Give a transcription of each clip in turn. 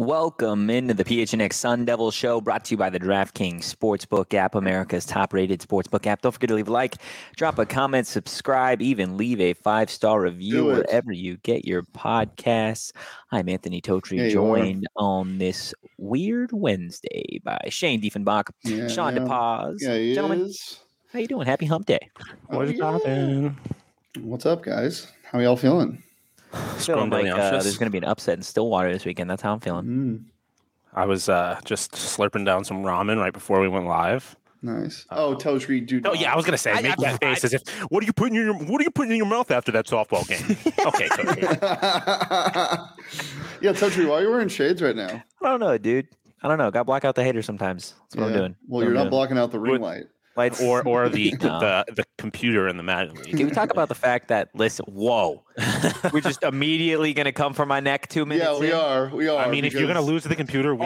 Welcome into the PHNX Sun Devil Show, brought to you by the DraftKings Sportsbook app, America's top-rated sportsbook app. Don't forget to leave a like, drop a comment, subscribe, even leave a 5-star review wherever you get your podcasts. I'm Anthony Totri, joined on this weird Wednesday by Shane Diefenbach, Sean DePaz. Gentlemen, how you doing? Happy Hump Day. What's poppin'? What's up, guys? How y'all feeling? Feeling like there's going to be an upset in Stillwater this weekend. That's how I'm feeling. I was just slurping down some ramen right before we went live. Nice. Totri, dude. Oh yeah, I was gonna say, make that face as if what are you putting in your mouth after that softball game? Okay, Totri. Yeah, Totri, why are you wearing shades right now? I don't know, dude. I don't know. Got to block out the haters sometimes. That's what I'm doing. Well, you're not blocking out the ring light. Lights. Or the computer in the Madden League. Can we talk about the fact that, listen, we're just immediately going to come for my neck 2 minutes Yeah, we are. I mean, if you're going to lose to the computer,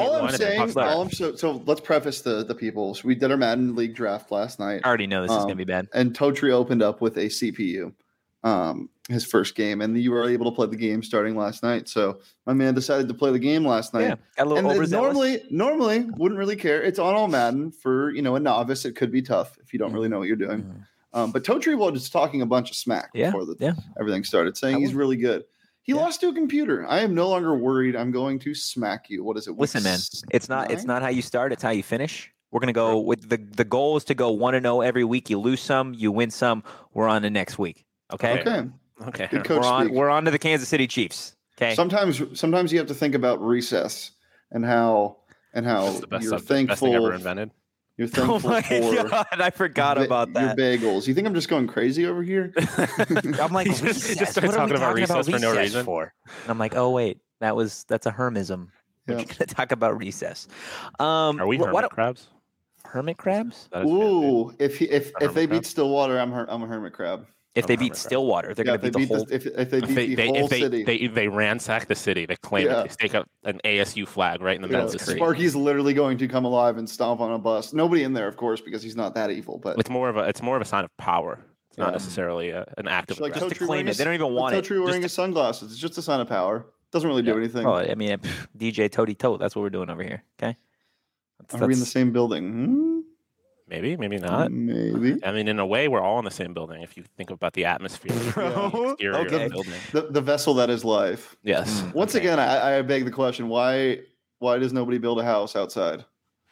so let's preface the people. So we did our Madden League draft last night. I already know this is going to be bad. And Totri opened up with a CPU, his first game, and you were able to play the game starting last night. So my man decided to play the game last night. Yeah, got a little overzealous. Normally wouldn't really care. It's on all Madden. For a novice, it could be tough if you don't really know what you're doing. But Totri was talking a bunch of smack before everything started, saying he's really good. He lost to a computer. I am no longer worried. I'm going to smack you. What is it? Listen, man, it's not how you start. It's how you finish. We're going to go with the goal is to go 1-0 every week. You lose some, you win some. We're on to next week. Okay. Good coach we're on to the Kansas City Chiefs. Okay. Sometimes you have to think about recess and how That's the you're best thankful. thing ever invented. You're thankful God, I forgot about that. Your bagels. You think I'm just going crazy over here? I'm like, just started talking about recess for no reason. And I'm like, oh wait, that's a hermism. We're going to talk about recess. Are we hermit crabs? Hermit crabs? Ooh, if they beat Stillwater, I'm a hermit crab. If they beat Stillwater, they're going to beat the whole. If they beat the whole city, they ransack the city. They claim it. They stake up an ASU flag right in the middle of the city. Sparky's literally going to come alive and stomp on a bus. Nobody in there, of course, because he's not that evil. But it's more of a sign of power. It's not necessarily an act of just to claim it. They don't even want it. Totri wearing his sunglasses. It's just a sign of power. Doesn't really do anything. Oh, I mean, DJ Toady Tote. That's what we're doing over here. Okay. Are we in the same building? Maybe not. Maybe. I mean, in a way, we're all in the same building if you think about the atmosphere. The exterior of the building. The vessel that is life. Yes. Once again, I beg the question: Why does nobody build a house outside?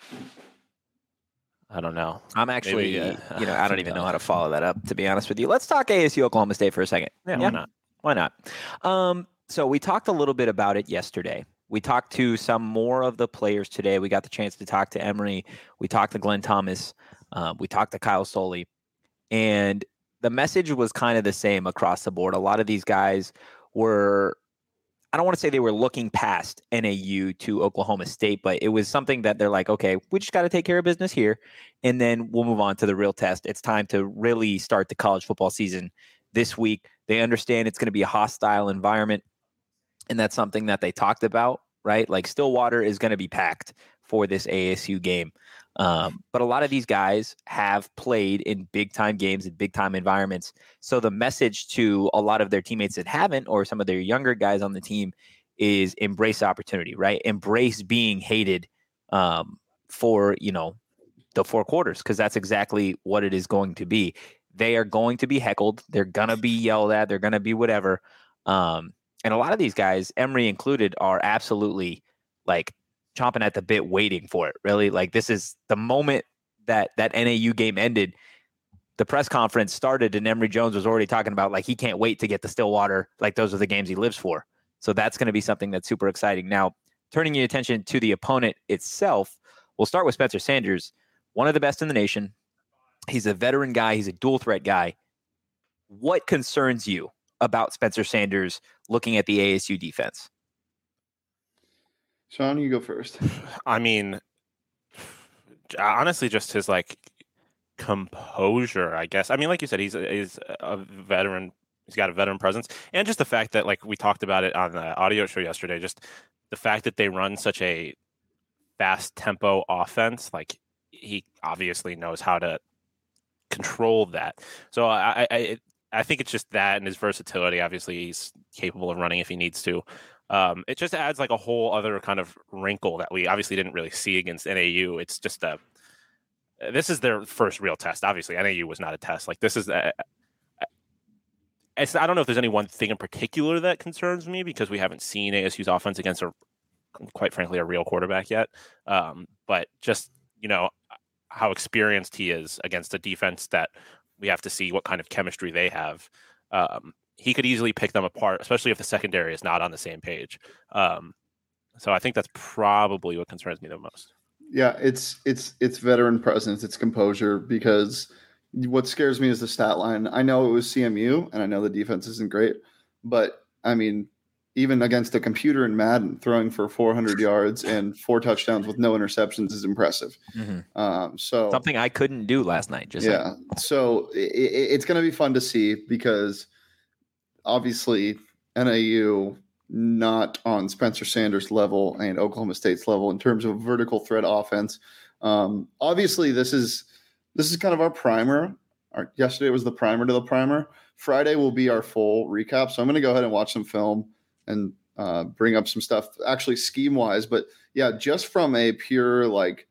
I don't know. I'm actually, I don't even know how to follow that up. To be honest with you, let's talk ASU Oklahoma State for a second. Yeah. Why not? So we talked a little bit about it yesterday. We talked to some more of the players today. We got the chance to talk to Emory. We talked to Glenn Thomas. We talked to Kyle Soley. And the message was kind of the same across the board. A lot of these guys were, I don't want to say they were looking past NAU to Oklahoma State, but it was something that they're like, okay, we just got to take care of business here, and then we'll move on to the real test. It's time to really start the college football season this week. They understand it's going to be a hostile environment. And that's something that they talked about, right? Like Stillwater is going to be packed for this ASU game. But a lot of these guys have played in big-time games in big-time environments. So the message to a lot of their teammates that haven't, or some of their younger guys on the team, is embrace opportunity, right? Embrace being hated for, the 4 quarters, because that's exactly what it is going to be. They are going to be heckled. They're going to be yelled at. They're going to be whatever. And a lot of these guys, Emory included, are absolutely like chomping at the bit, waiting for it. Really, like this is the moment that NAU game ended. The press conference started, and Emory Jones was already talking about like he can't wait to get to Stillwater. Like those are the games he lives for. So that's going to be something that's super exciting. Now, turning your attention to the opponent itself, we'll start with Spencer Sanders, one of the best in the nation. He's a veteran guy. He's a dual threat guy. What concerns you about Spencer Sanders looking at the ASU defense? Sean, you go first. I mean, honestly, just his composure, I guess. I mean, like you said, he's a veteran. He's got a veteran presence, and just the fact that, like we talked about it on the audio show yesterday, just the fact that they run such a fast tempo offense, like he obviously knows how to control that. So I think it's just that and his versatility. Obviously, he's capable of running if he needs to. It just adds like a whole other kind of wrinkle that we obviously didn't really see against NAU. It's just this is their first real test. Obviously, NAU was not a test. Like, this is I don't know if there's any one thing in particular that concerns me, because we haven't seen ASU's offense against quite frankly, a real quarterback yet. But just, how experienced he is against a defense that we have to see what kind of chemistry they have. He could easily pick them apart, especially if the secondary is not on the same page. So I think that's probably what concerns me the most. Yeah, it's veteran presence, it's composure, because what scares me is the stat line. I know it was CMU, and I know the defense isn't great, but I mean, even against a computer in Madden, throwing for 400 yards and 4 touchdowns with no interceptions is impressive. Mm-hmm. So something I couldn't do last night. So it's going to be fun to see, because obviously NAU not on Spencer Sanders' level and Oklahoma State's level in terms of vertical threat offense. Obviously, this is kind of our primer. Yesterday was the primer to the primer. Friday will be our full recap. So I'm going to go ahead and watch some film and bring up some stuff actually scheme wise. But yeah, just from a pure like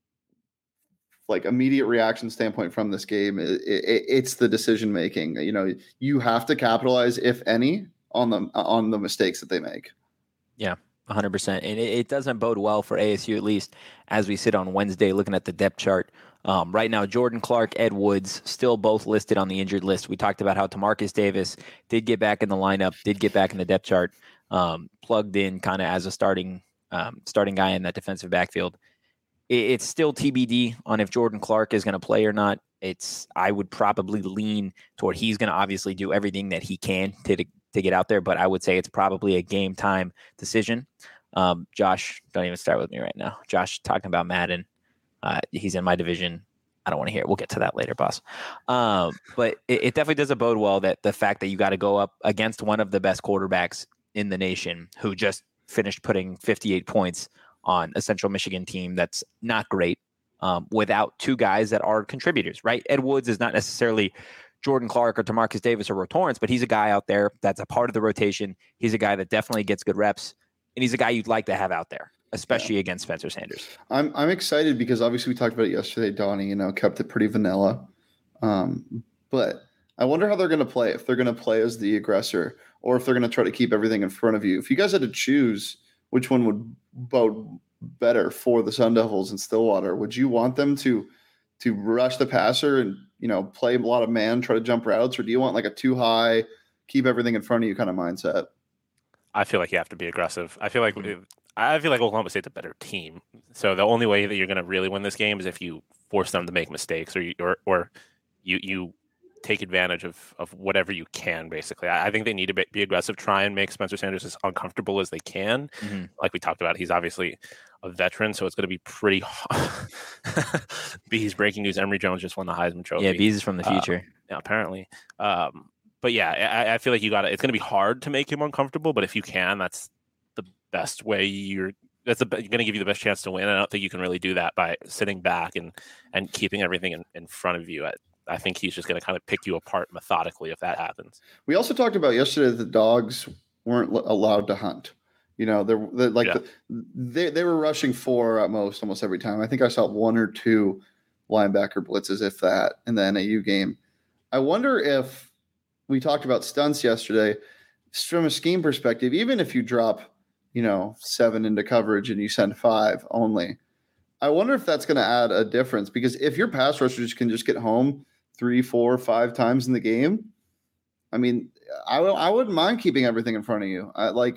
immediate reaction standpoint from this game, it's the decision making. You have to capitalize, if any, on the mistakes that they make. Yeah, 100%. And it doesn't bode well for ASU, at least as we sit on Wednesday looking at the depth chart. Right now, Jordan Clark, Ed Woods, still both listed on the injured list. We talked about how Tamarcus Davis did get back in the lineup, did get back in the depth chart, plugged in kind of as a starting guy in that defensive backfield. It's still TBD on if Jordan Clark is going to play or not. I would probably lean toward he's going to obviously do everything that he can to get out there, but I would say it's probably a game time decision. Josh, don't even start with me right now. Josh talking about Madden. He's in my division. I don't want to hear it. We'll get to that later, boss. But it definitely doesn't bode well that the fact that you got to go up against one of the best quarterbacks in the nation, who just finished putting 58 points on a Central Michigan team that's not great, without 2 guys that are contributors, right? Ed Woods is not necessarily Jordan Clark or Tamarcus Davis or Ro Torrence, but he's a guy out there that's a part of the rotation. He's a guy that definitely gets good reps, and he's a guy you'd like to have out there, especially against Spencer Sanders. I'm excited because obviously we talked about it yesterday. Donnie, kept it pretty vanilla. But I wonder how they're going to play, if they're going to play as the aggressor or if they're going to try to keep everything in front of you. If you guys had to choose which one would bode better for the Sun Devils in Stillwater, would you want them to rush the passer and, play a lot of man, try to jump routes, or do you want like a too high, keep everything in front of you kind of mindset? I feel like you have to be aggressive. I feel like Oklahoma State's a better team. So the only way that you're going to really win this game is if you force them to make mistakes, or you take advantage of whatever you can. Basically, I think they need to be aggressive, try and make Spencer Sanders as uncomfortable as they can. Mm-hmm. Like we talked about, he's obviously a veteran, so it's going to be pretty hard. Bees breaking news: Emory Jones just won the Heisman Trophy. Yeah, Bees is from the future. Yeah, apparently. But yeah, I feel like it's going to be hard to make him uncomfortable. But if you can, that's the best way. You're going to give you the best chance to win. I don't think you can really do that by sitting back and keeping everything in front of you. I think he's just going to kind of pick you apart methodically if that happens. We also talked about yesterday that the dogs weren't allowed to hunt. They were rushing 4 at most almost every time. I think I saw 1 or 2 linebacker blitzes, if that, in the NAU game. I wonder if we talked about stunts yesterday from a scheme perspective, even if you drop, 7 into coverage and you send 5 only, I wonder if that's going to add a difference, because if your pass rushers can just get home 3, 4, 5 times in the game, I mean, I wouldn't mind keeping everything in front of you.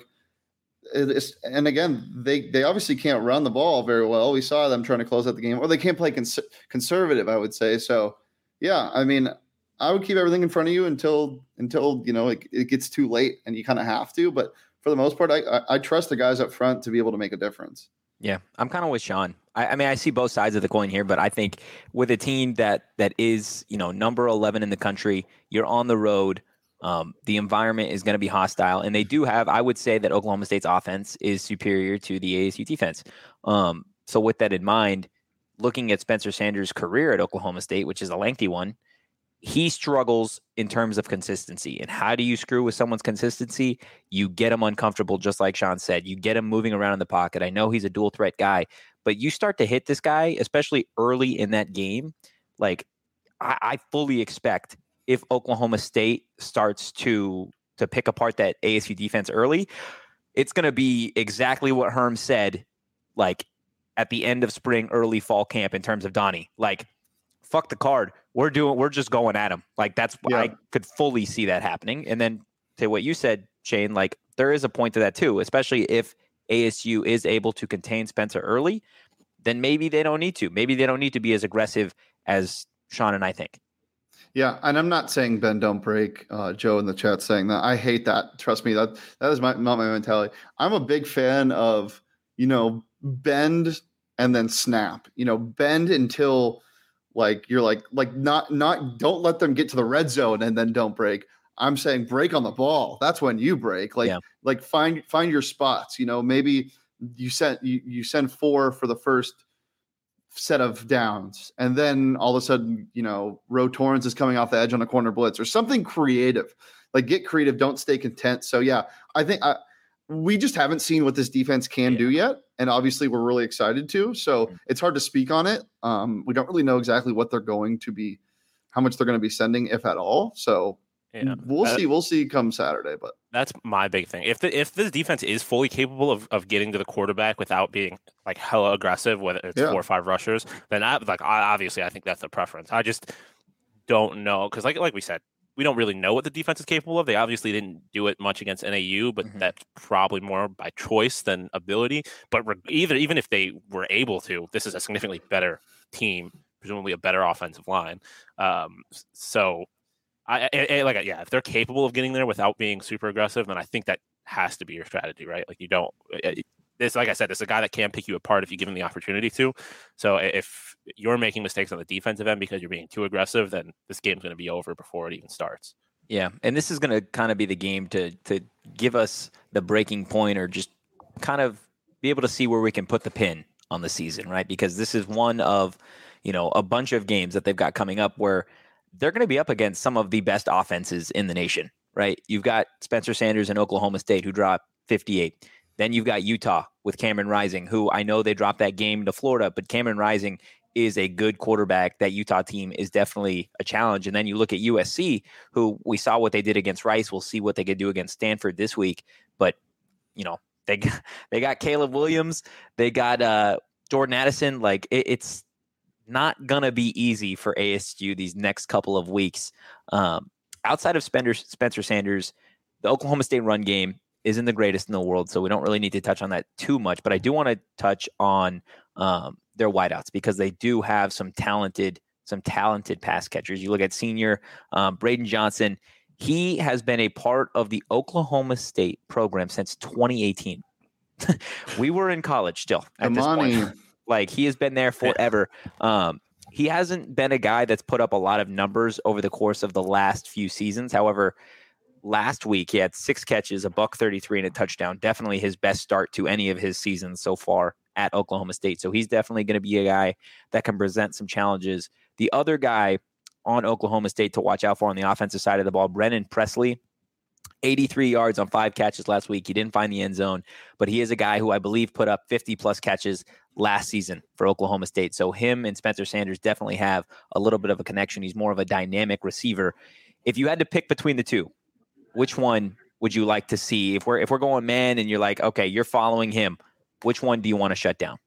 And again, they obviously can't run the ball very well. We saw them trying to close out the game, or they can't play conservative, I would say. So, yeah, I mean, I would keep everything in front of you until it gets too late and you kind of have to. But for the most part, I trust the guys up front to be able to make a difference. Yeah, I'm kind of with Sean. I mean, I see both sides of the coin here, but I think with a team that is, number 11 in the country, you're on the road. The environment is going to be hostile, and they do have, I would say that Oklahoma State's offense is superior to the ASU defense. So with that in mind, looking at Spencer Sanders' career at Oklahoma State, which is a lengthy one, he struggles in terms of consistency. And how do you screw with someone's consistency? You get him uncomfortable, just like Sean said. You get him moving around in the pocket. I know he's a dual threat guy, but you start to hit this guy, especially early in that game. Like, I fully expect if Oklahoma State starts to pick apart that ASU defense early, it's going to be exactly what Herm said, like at the end of spring, early fall camp in terms of Donnie. Like, fuck the card. We're just going at him. Like, that's I could fully see that happening. And then to what you said, Shane, like there is a point to that too, especially if ASU is able to contain Spencer early, then maybe they don't need to. Maybe they don't need to be as aggressive as Sean and I think. Yeah, and I'm not saying bend don't break. Joe in the chat saying that. I hate that. Trust me, that is not my mentality. I'm a big fan of, bend and then snap. Bend until like you're like not don't let them get to the red zone and then don't break. I'm saying break on the ball. That's when you break. Like find your spots. Maybe you send 4 for the first set of downs, and then all of a sudden, Ro Torrens is coming off the edge on a corner blitz or something creative. Like, get creative. Don't stay content. So yeah, I think we just haven't seen what this defense can do yet, and obviously we're really excited to. So it's hard to speak on it. We don't really know exactly what they're going to be, how much they're going to be sending, if at all. So we'll see. We'll see come Saturday. But that's my big thing. If this defense is fully capable of getting to the quarterback without being like hella aggressive, whether it's 4 or 5 rushers, then obviously I think that's the preference. I just don't know, because like we said, we don't really know what the defense is capable of. They obviously didn't do it much against NAU, but that's probably more by choice than ability. But even if they were able to, this is a significantly better team, presumably a better offensive line. So if they're capable of getting there without being super aggressive, then I think that has to be your strategy, right? Like, you don't. Like I said, this is a guy that can pick you apart if you give him the opportunity to. So if you're making mistakes on the defensive end because you're being too aggressive, then this game's going to be over before it even starts. Yeah, and this is going to kind of be the game to give us the breaking point, or just kind of be able to see where we can put the pin on the season, right? Because this is one of, a bunch of games that they've got coming up where they're going to be up against some of the best offenses in the nation, right? You've got Spencer Sanders and Oklahoma State, who dropped 58. Then you've got Utah with Cameron Rising, who I know they dropped that game to Florida, but Cameron Rising is a good quarterback. That Utah team is definitely a challenge. And then you look at USC, who we saw what they did against Rice. We'll see what they could do against Stanford this week. But, they got Caleb Williams. They got Jordan Addison. Like, it's not going to be easy for ASU these next couple of weeks. Outside of Spencer Sanders, the Oklahoma State run game isn't the greatest in the world, so we don't really need to touch on that too much. But I do want to touch on their wideouts, because they do have some talented pass catchers. You look at senior Braden Johnson. He has been a part of the Oklahoma State program since 2018. We were in college still at this point. Like, he has been there forever. He hasn't been a guy that's put up a lot of numbers over the course of the last few seasons. However, last week he had 6 catches, $133, and a touchdown. Definitely his best start to any of his seasons so far at Oklahoma State. So he's definitely going to be a guy that can present some challenges. The other guy on Oklahoma State to watch out for on the offensive side of the ball, Brennan Presley, 83 yards on 5 catches last week. He didn't find the end zone, but he is a guy who I believe put up 50-plus catches last season for Oklahoma State. So him and Spencer Sanders definitely have a little bit of a connection. He's more of a dynamic receiver. If you had to pick between the two, which one would you like to see? If we're going man and you're like, okay, you're following him, which one do you want to shut down?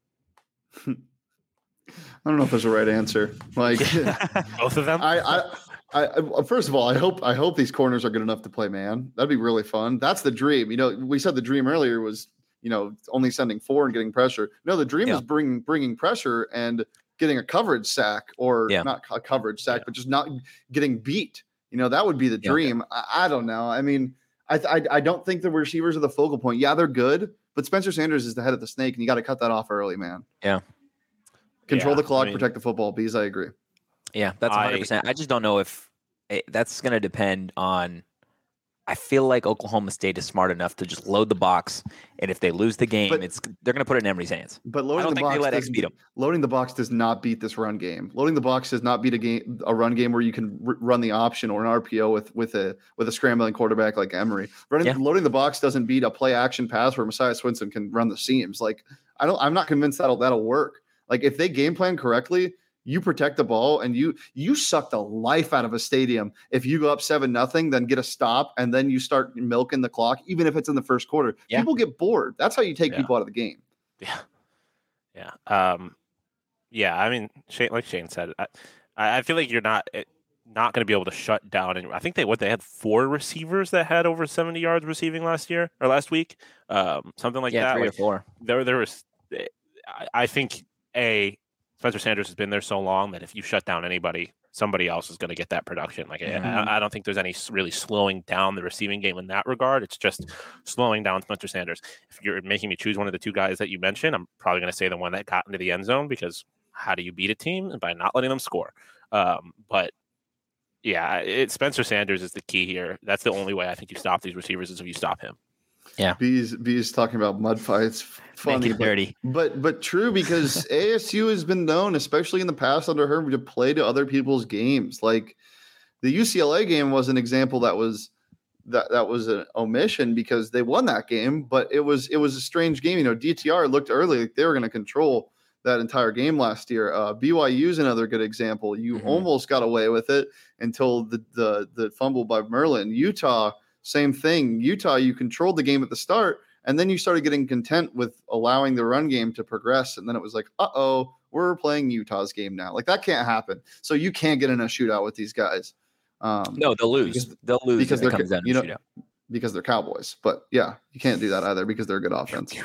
I don't know if there's a right answer. Like, both of them. I first of all, I hope these corners are good enough to play man. That'd be really fun. That's the dream. We said the dream earlier was, only sending 4 and getting pressure. No, the dream is bringing pressure and getting a coverage sack, or not a coverage sack, but just not getting beat. That would be the dream. I don't know. I mean, I don't think the receivers are the focal point. Yeah, they're good, but Spencer Sanders is the head of the snake, and you got to cut that off early, man. Yeah. Control the clock, protect the football. Bees, I agree. Yeah, that's 100%. I just don't know if that's going to depend on I feel like Oklahoma State is smart enough to just load the box, and if they lose the game, they're going to put it in Emory's hands. But loading the box beat them. Loading the box does not beat this run game. Loading the box does not beat a run game where you can run the option or an RPO with a scrambling quarterback like Emory. Loading the box doesn't beat a play action pass where Messiah Swinson can run the seams. Like I'm not convinced that'll work. Like if they game plan correctly, you protect the ball and you suck the life out of a stadium. If you go up 7-0, then get a stop and then you start milking the clock, even if it's in the first quarter. Yeah. People get bored. That's how you take people out of the game. Yeah. Yeah. I mean, like Shane said, I feel like you're not going to be able to shut down. And I think they had 4 receivers that had over 70 yards receiving last week, something like that. 3 or 4. There was, I think Spencer Sanders has been there so long that if you shut down anybody, somebody else is going to get that production. Like I don't think there's any really slowing down the receiving game in that regard. It's just slowing down Spencer Sanders. If you're making me choose one of the 2 guys that you mentioned, I'm probably going to say the one that got into the end zone, because how do you beat a team? By not letting them score. But yeah, Spencer Sanders is the key here. That's the only way I think you stop these receivers is if you stop him. Yeah, B's talking about mud fights. Funny, dirty, but true, because ASU has been known, especially in the past under Herm, to play to other people's games. Like the UCLA game was an example that was an omission because they won that game, but it was a strange game. You know, DTR looked early like they were going to control that entire game last year. BYU is another good example. You almost got away with it until the fumble by Merlin. Utah. Same thing. Utah, you controlled the game at the start, and then you started getting content with allowing the run game to progress. And then it was like, we're playing Utah's game now. Like that can't happen. So you can't get in a shootout with these guys. No, they'll lose. They'll lose because it comes down to shootout. Because they're Cowboys. But yeah, you can't do that either because they're a good offense.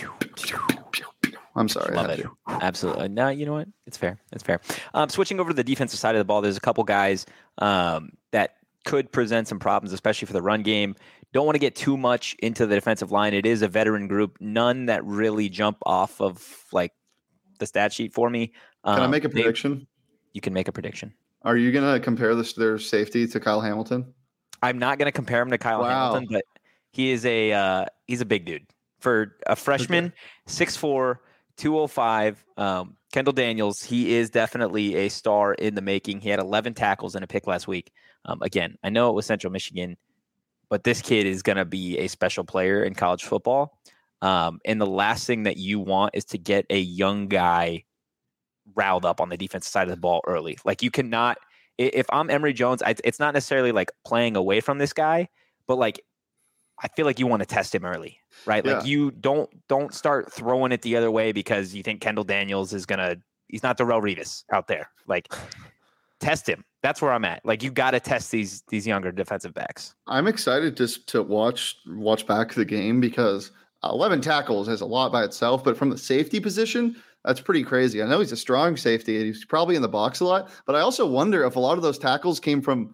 I'm sorry. Love it. Absolutely. No, you know what? It's fair. Switching over to the defensive side of the ball, there's a couple guys that could present some problems, especially for the run game. Don't want to get too much into the defensive line. It is a veteran group. None that really jump off of like the stat sheet for me. Can I make a prediction? You can make a prediction. Are you going to compare their safety to Kyle Hamilton? I'm not going to compare him to Kyle Hamilton, but he is he's a big dude. For a freshman, 6'4", 205, Kendall Daniels, he is definitely a star in the making. He had 11 tackles and a pick last week. Again, I know it was Central Michigan, but this kid is going to be a special player in college football. And the last thing that you want is to get a young guy riled up on the defensive side of the ball early. Like you cannot, if I'm Emory Jones, it's not necessarily like playing away from this guy, but like, I feel like you want to test him early, right? Yeah. Like you don't start throwing it the other way because you think Kendall Daniels he's not Darrelle Revis out there. Like test him. That's where I'm at. Like you got to test these younger defensive backs. I'm excited just to watch back the game because 11 tackles is a lot by itself, but from the safety position, that's pretty crazy. I know he's a strong safety and he's probably in the box a lot, but I also wonder if a lot of those tackles came from,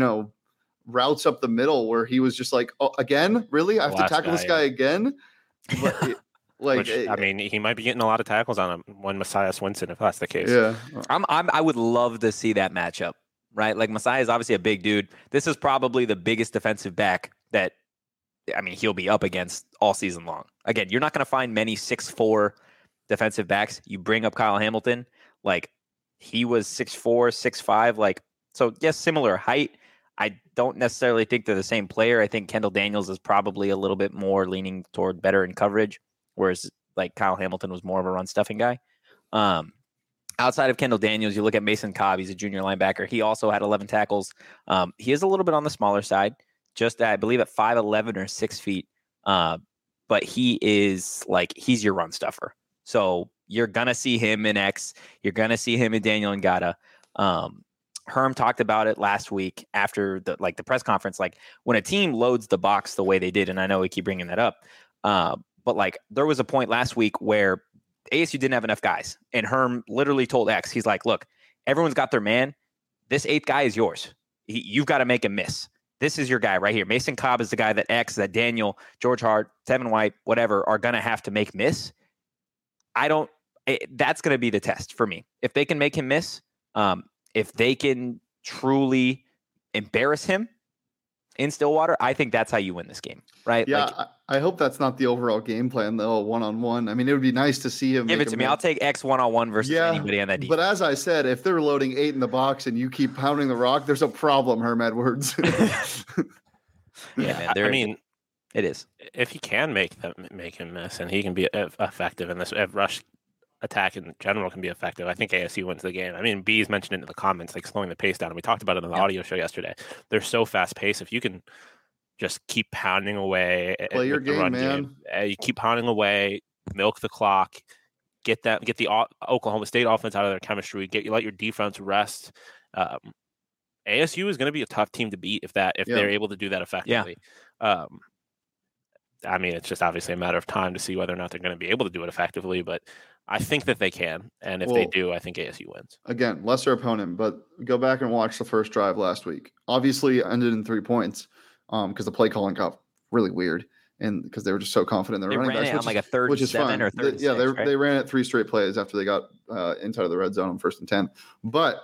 routes up the middle where he was just like, oh, again, really? I have to tackle this guy again? But he might be getting a lot of tackles on him when Messiah Swinson, if that's the case. Yeah. I would love to see that matchup, right? Like Messiah is obviously a big dude. This is probably the biggest defensive back that, he'll be up against all season long. Again, you're not going to find many 6'4" defensive backs. You bring up Kyle Hamilton, like he was 6'4", 6'5", like, so yes, similar height. I don't necessarily think they're the same player. I think Kendall Daniels is probably a little bit more leaning toward better in coverage, whereas like Kyle Hamilton was more of a run stuffing guy. Outside of Kendall Daniels, you look at Mason Cobb. He's a junior linebacker. He also had 11 tackles. He is a little bit on the smaller side, just I believe at 5'11" or 6 feet. But he is he's your run stuffer. So you're going to see him in X. You're going to see him in Daniel Ngata. Herm talked about it last week after the press conference, like when a team loads the box the way they did. And I know we keep bringing that up. But there was a point last week where ASU didn't have enough guys and Herm literally told X, he's like, look, everyone's got their man. This 8th guy is yours. You've got to make him miss. This is your guy right here. Mason Cobb is the guy that X, that Daniel, George Hart, Tevin White, whatever, are going to have to make miss. That's going to be the test for me. If they can make him miss, if they can truly embarrass him, in Stillwater, I think that's how you win this game, right? Yeah, I hope that's not the overall game plan, though, one-on-one. I mean, it would be nice to see him. Give it to me. I'll take X one-on-one versus anybody on that defense. But as I said, if they're loading 8 in the box and you keep pounding the rock, there's a problem, Herm Edwards. Man, I mean, it is. If he can make him miss and he can be effective in this rush attack in general can be effective, I think ASU wins the game. I mean, B's mentioned it in the comments, like slowing the pace down. And we talked about it on the audio show yesterday. They're so fast-paced. If you can just keep pounding away. Play your game, man. You keep pounding away, milk the clock, get the Oklahoma State offense out of their chemistry, let your defense rest. ASU is going to be a tough team to beat if they're able to do that effectively. I mean, it's just obviously a matter of time to see whether or not they're going to be able to do it effectively, but I think that they can. And if they do, I think ASU wins. Again, lesser opponent, but go back and watch the first drive last week. Obviously ended in 3 points. Because the play calling got really weird, and because they were just so confident in their running backs, on like a third, which is fine. Or third, they ran it 3 straight plays after they got inside of the red zone on 1st and 10. But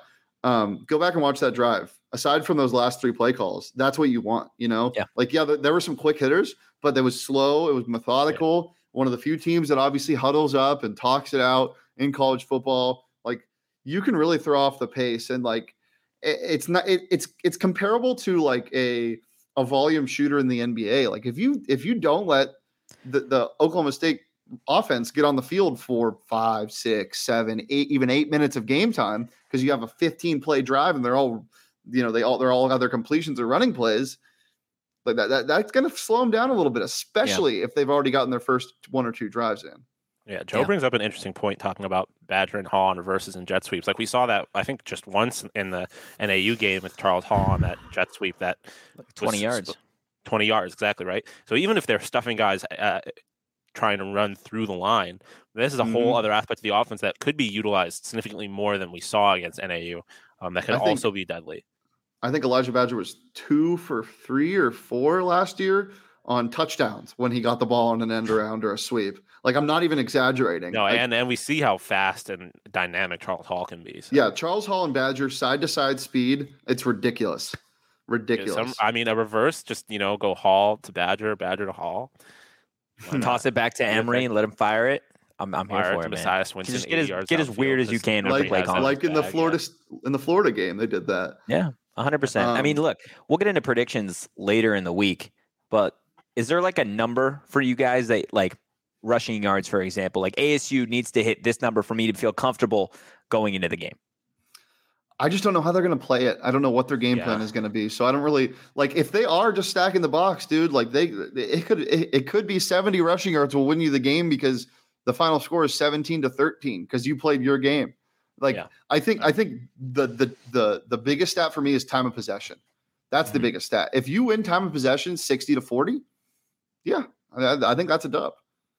go back and watch that drive. Aside from those last 3 play calls, that's what you want. There were some quick hitters, but it was slow. It was methodical. Yeah. One of the few teams that obviously huddles up and talks it out in college football. Like you can really throw off the pace, and like it's comparable to like a volume shooter in the NBA. Like if you don't let the Oklahoma State offense get on the field for 5, 6, 7, 8, even 8 minutes of game time, because you have a 15 play drive and they're all have their completions or running plays, like that's going to slow them down a little bit, especially if they've already gotten their first 1 or 2 drives in. Yeah, Joe brings up an interesting point talking about Badger and Hall on reverses and jet sweeps. Like we saw that, I think, just once in the NAU game with Charles Hall on that jet sweep that 20 yards. 20 yards, exactly right. So even if they're stuffing guys trying to run through the line, this is a whole other aspect of the offense that could be utilized significantly more than we saw against NAU. That could also be deadly. I think Elijah Badger was 2 for 3 or 4 last year on touchdowns when he got the ball on an end around or a sweep. Like, I'm not even exaggerating. No, and we see how fast and dynamic Charles Hall can be. So. Yeah, Charles Hall and Badger, side-to-side speed, it's ridiculous. Ridiculous. A reverse, just, go Hall to Badger, Badger to Hall. Toss it back to Emory and let him fire it. I'm here for it, man. Messias Winston, just get as weird as you can with the play calling. Like in the Florida game, they did that. Yeah, 100%. I mean, look, we'll get into predictions later in the week, but is there like a number for you guys that like rushing yards, for example, like ASU needs to hit this number for me to feel comfortable going into the game? I just don't know how they're going to play it. I don't know what their game plan is going to be. So I don't really like if they are just stacking the box, dude, like it could be 70 rushing yards will win you the game because the final score is 17-13 because you played your game. Like I think the biggest stat for me is time of possession. That's the biggest stat. If you win time of possession 60-40, I think that's a dub.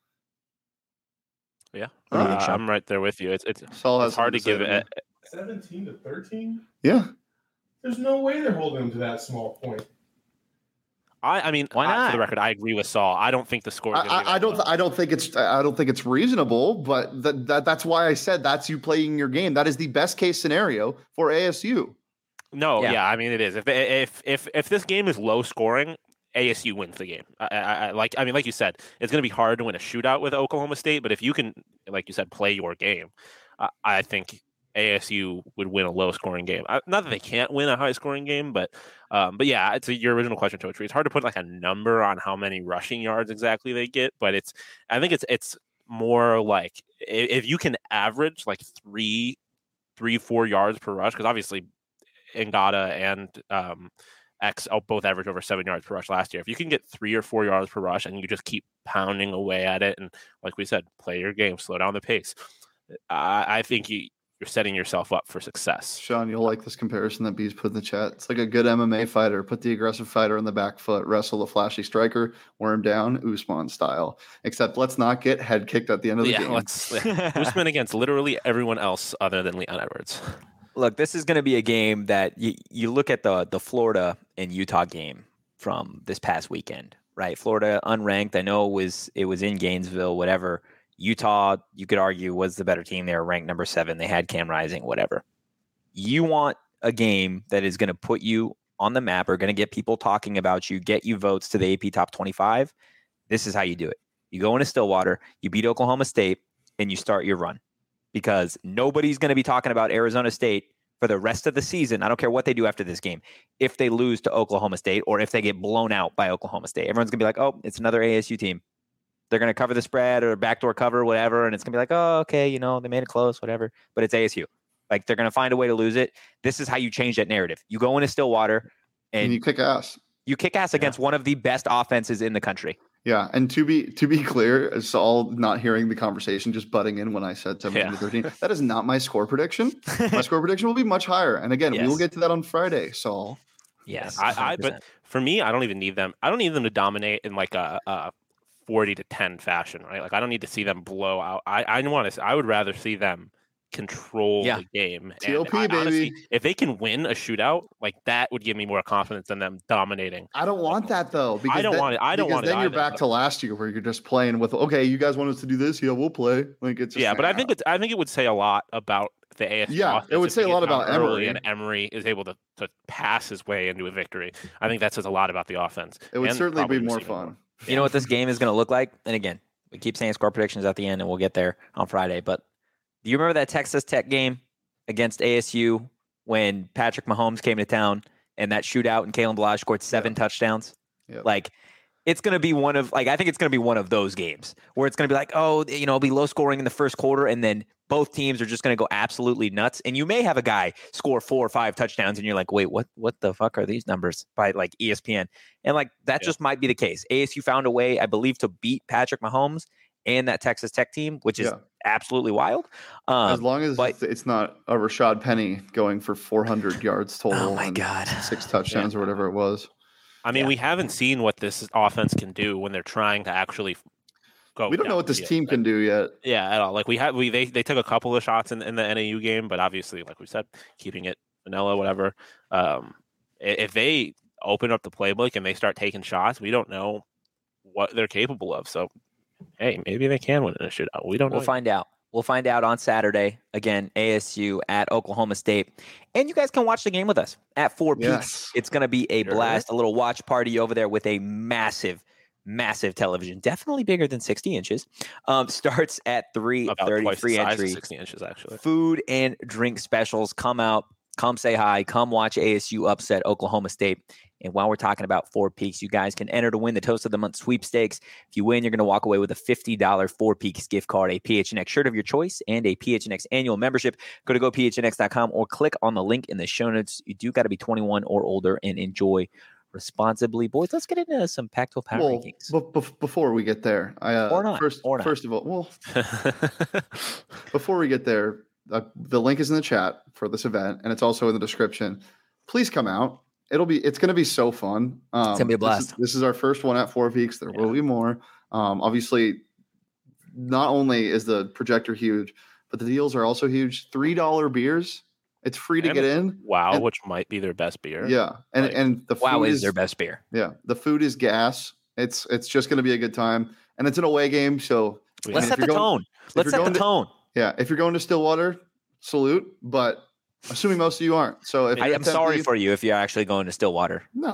Yeah, I'm right there with you. It's hard to give it 17-13. Yeah, there's no way they're holding them to that small point. I mean, why not? For the record, I agree with Saul. I don't think the score. I don't think it's reasonable, but that's why I said that's you playing your game. That is the best case scenario for ASU. No, I mean it is. If this game is low scoring, ASU wins the game. Like you said, it's going to be hard to win a shootout with Oklahoma State, but if you can, like you said, play your game, I think ASU would win a low-scoring game. Not that they can't win a high-scoring game, but yeah, it's your original question, Totri. It's hard to put like a number on how many rushing yards exactly they get, but I think it's more like if you can average like 3-4 yards per rush, because obviously Ngata and X both average over 7 yards per rush last year. If you can get 3 or 4 yards per rush and you just keep pounding away at it, and like we said, play your game, slow down the pace, I think you're setting yourself up for success. Sean, you'll like this comparison that B's put in the chat. It's like a good MMA fighter. Put the aggressive fighter on the back foot, wrestle the flashy striker, wear him down, Usman style. Except let's not get head kicked at the end of the game. Usman against literally everyone else other than Leon Edwards. Look, this is going to be a game that you look at the Florida and Utah game from this past weekend, right? Florida unranked. I know it was in Gainesville, whatever. Utah, you could argue, was the better team. They were ranked number 7. They had Cam Rising, whatever. You want a game that is going to put you on the map, are going to get people talking about you, get you votes to the AP Top 25, this is how you do it. You go into Stillwater, you beat Oklahoma State, and you start your run. Because nobody's going to be talking about Arizona State for the rest of the season. I don't care what they do after this game. If they lose to Oklahoma State or if they get blown out by Oklahoma State, everyone's going to be like, oh, it's another ASU team. They're going to cover the spread or backdoor cover, whatever. And it's going to be like, oh, okay, they made it close, whatever. But it's ASU. Like, they're going to find a way to lose it. This is how you change that narrative. You go into Stillwater and you kick ass. You kick ass against one of the best offenses in the country. Yeah, and to be clear, it's all not hearing the conversation, just butting in when I said 17-13. That is not my score prediction. My score prediction will be much higher. And again, we will get to that on Friday, Saul. Yes, but for me, I don't even need them. I don't need them to dominate in like a 40-10 fashion, right? Like, I don't need to see them blow out. I would rather see them control the game. TOP, baby. Honestly, if they can win a shootout, like, that would give me more confidence than them dominating. I don't want that though. Because I don't want it. Then you're back to last year where you're just playing with, okay, you guys want us to do this? Yeah, we'll play. Like, it's just but I think it would say a lot about the ASU. Yeah, it would say a lot about Emory, and Emory is able to pass his way into a victory. I think that says a lot about the offense. It would certainly be more fun. You know what this game is going to look like? And again, we keep saying score predictions at the end, and we'll get there on Friday. But do you remember that Texas Tech game against ASU when Patrick Mahomes came to town and that shootout and Kalen Ballage scored 7 touchdowns? Yep. Like, it's going to be I think it's going to be one of those games where it's going to be like, oh, it'll be low scoring in the first quarter, and then both teams are just going to go absolutely nuts. And you may have a guy score 4 or 5 touchdowns, and you're like, wait, what the fuck are these numbers by like ESPN? And like, that just might be the case. ASU found a way, I believe, to beat Patrick Mahomes and that Texas Tech team, which is absolutely wild. As long as it's not a Rashad Penny going for 400 yards total. Oh my God. 6 touchdowns or whatever it was. I mean, we haven't seen what this offense can do when they're trying to actually go. We don't know what this team can do yet. Yeah, at all. Like, they took a couple of shots in the NAU game, but obviously, like we said, keeping it vanilla, whatever. If they open up the playbook and they start taking shots, we don't know what they're capable of. So, hey, maybe they can win in a shootout. We don't know. We'll find out. We'll find out on Saturday. Again, ASU at Oklahoma State. And you guys can watch the game with us at 4 Peaks. It's going to be a blast, a little watch party over there with a massive television, definitely bigger than 60 inches. Starts at 3:30, free entry. 60 inches, actually. Food and drink specials. Come out, come say hi, come watch ASU upset Oklahoma State. And while we're talking about 4 Peaks, you guys can enter to win the Toast of the Month sweepstakes. If you win, you're going to walk away with a $50 4 Peaks gift card, a PHNX shirt of your choice, and a PHNX annual membership. Go to gophnx.com or click on the link in the show notes. You do got to be 21 or older and enjoy responsibly. Boys, let's get into some Pac-12 power rankings. But before we get there, first of all, before we get there, the link is in the chat for this event, and it's also in the description. Please come out. It's going to be so fun. It's going to be a blast. This is our first one at 4 Peaks. There will be more. Obviously, not only is the projector huge, but the deals are also huge. $3 beers. It's free to get in. Wow, which might be their best beer. Yeah, and the food is their best beer. Yeah, the food is gas. It's just going to be a good time, and it's an away game. So let's set the tone. Let's set the tone. Yeah, if you're going to Stillwater, salute. But assuming most of you aren't. So I'm sorry for you if you're actually going to Stillwater. No,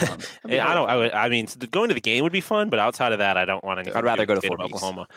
I mean, going to the game would be fun, but outside of that, I don't want to. I'd rather go to Oklahoma.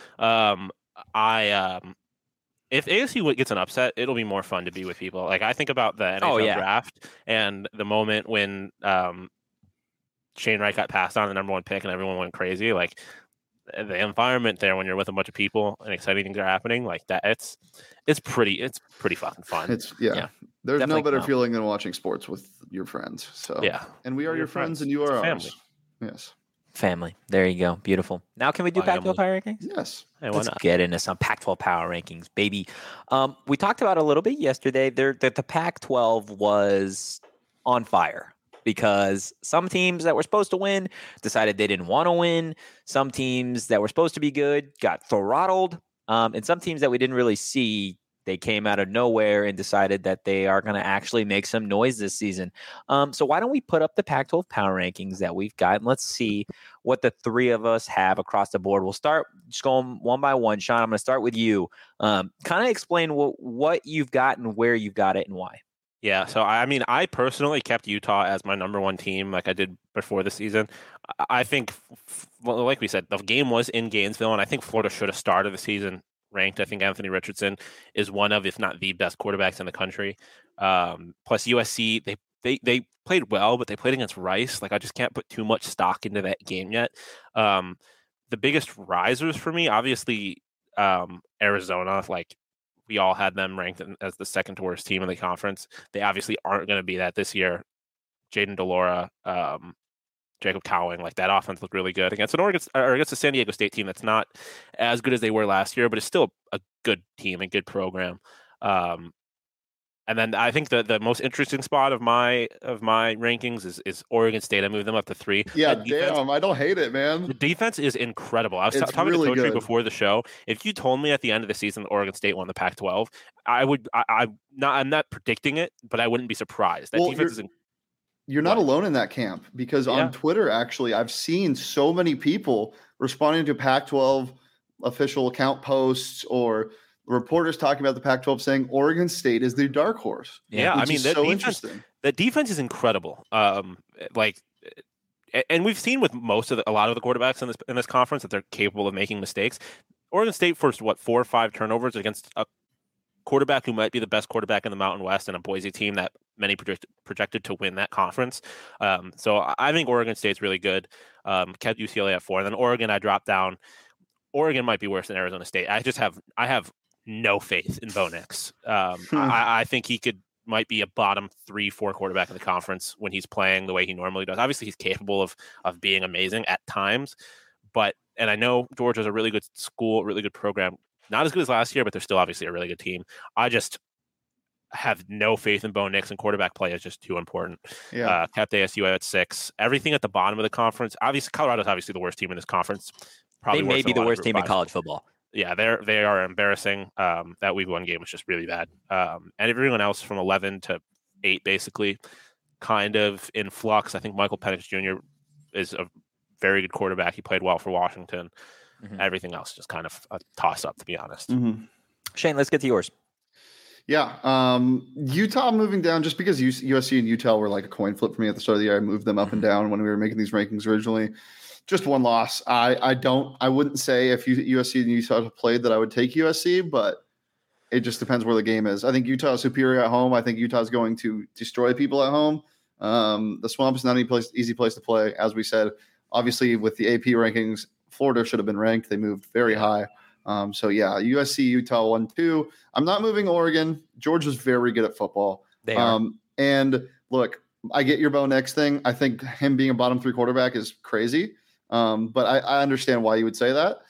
If ASU gets an upset, it'll be more fun to be with people. Like, I think about the NHL draft and the moment when Shane Wright got passed on the number 1 pick and everyone went crazy. Like, the environment there when you're with a bunch of people and exciting things are happening, like that, it's pretty fucking fun. There's no better feeling than watching sports with your friends. So and we are your friends and you are ours. Yes. Family. There you go. Beautiful. Now can we do Pac-12 power rankings? Yes. Hey, Let's get into some Pac-12 power rankings, baby. We talked about it a little bit yesterday. That the Pac-12 was on fire because some teams that were supposed to win decided they didn't want to win. Some teams that were supposed to be good got throttled. And some teams that we didn't really see, they came out of nowhere and decided that they are going to actually make some noise this season. So why don't we put up the Pac-12 power rankings that we've got, and let's see what the 3 of us have across the board. We'll start just going one by one. Sean, I'm going to start with you. Kind of explain what you've got and where you've got it and why. Yeah, so I mean, I personally kept Utah as my number one team, like I did before the season. I think, like we said, the game was in Gainesville, and I think Florida should have started the season ranked. I think Anthony Richardson is one of, if not the best quarterbacks in the country. Plus USC, they played well, but they played against Rice. Like I just can't put too much stock into that game yet. The biggest risers for me, obviously, Arizona. Like we all had them ranked as the second to worst team in the conference. They obviously aren't going to be that this year. Jaden DeLora, Jacob Cowing, like that offense looked really good against against a San Diego State team that's not as good as they were last year, but it's still a good team and good program. And then I think the most interesting spot of my rankings is Oregon State. I moved them up to 3. Yeah, damn, I don't hate it, man. The defense is incredible. I was talking really to Totri before the show. If you told me at the end of the season that Oregon State won the Pac-12, I'm not predicting it, but I wouldn't be surprised. That defense is. You're not alone in that camp because on Twitter, actually, I've seen so many people responding to Pac-12 official account posts or reporters talking about the Pac-12 saying Oregon State is the dark horse. Yeah, I mean, interesting. That defense is incredible. And we've seen with a lot of the quarterbacks in this conference that they're capable of making mistakes. Oregon State forced 4 or 5 turnovers against a quarterback who might be the best quarterback in the Mountain West and a Boise team that many projected to win that conference. So I think Oregon State's really good. Kept UCLA at 4, and then Oregon I dropped down. Oregon might be worse than Arizona State. I have no faith in Bo Nix. I think he might be a bottom 3-4 quarterback in the conference when he's playing the way he normally does. Obviously, he's capable of being amazing at times, and I know Georgia's a really good school, really good program. Not as good as last year, but they're still obviously a really good team. I just have no faith in Bo Nix, and quarterback play is just too important. Yeah. Kept ASU at 6. Everything at the bottom of the conference. Obviously, Colorado's obviously the worst team in this conference. Probably they may be the worst team in college football. Yeah, they are embarrassing. That week 1 game was just really bad. And everyone else from 11 to 8, basically, kind of in flux. I think Michael Penix Jr. is a very good quarterback. He played well for Washington. Mm-hmm. Everything else just kind of a toss-up, to be honest. Mm-hmm. Shane, let's get to yours. Yeah, Utah moving down just because USC and Utah were like a coin flip for me at the start of the year. I moved them up and down when we were making these rankings originally. Just one loss. I wouldn't say if USC and Utah played that I would take USC, but it just depends where the game is. I think Utah is superior at home. I think Utah is going to destroy people at home. The Swamp is not an easy place to play, as we said. Obviously, with the AP rankings, Florida should have been ranked. They moved very high. So yeah, USC, Utah 1-2. I'm not moving Oregon. Georgia's very good at football. They are. And look, I get your Bo Nix thing. I think him being a bottom 3 quarterback is crazy. But I understand why you would say that.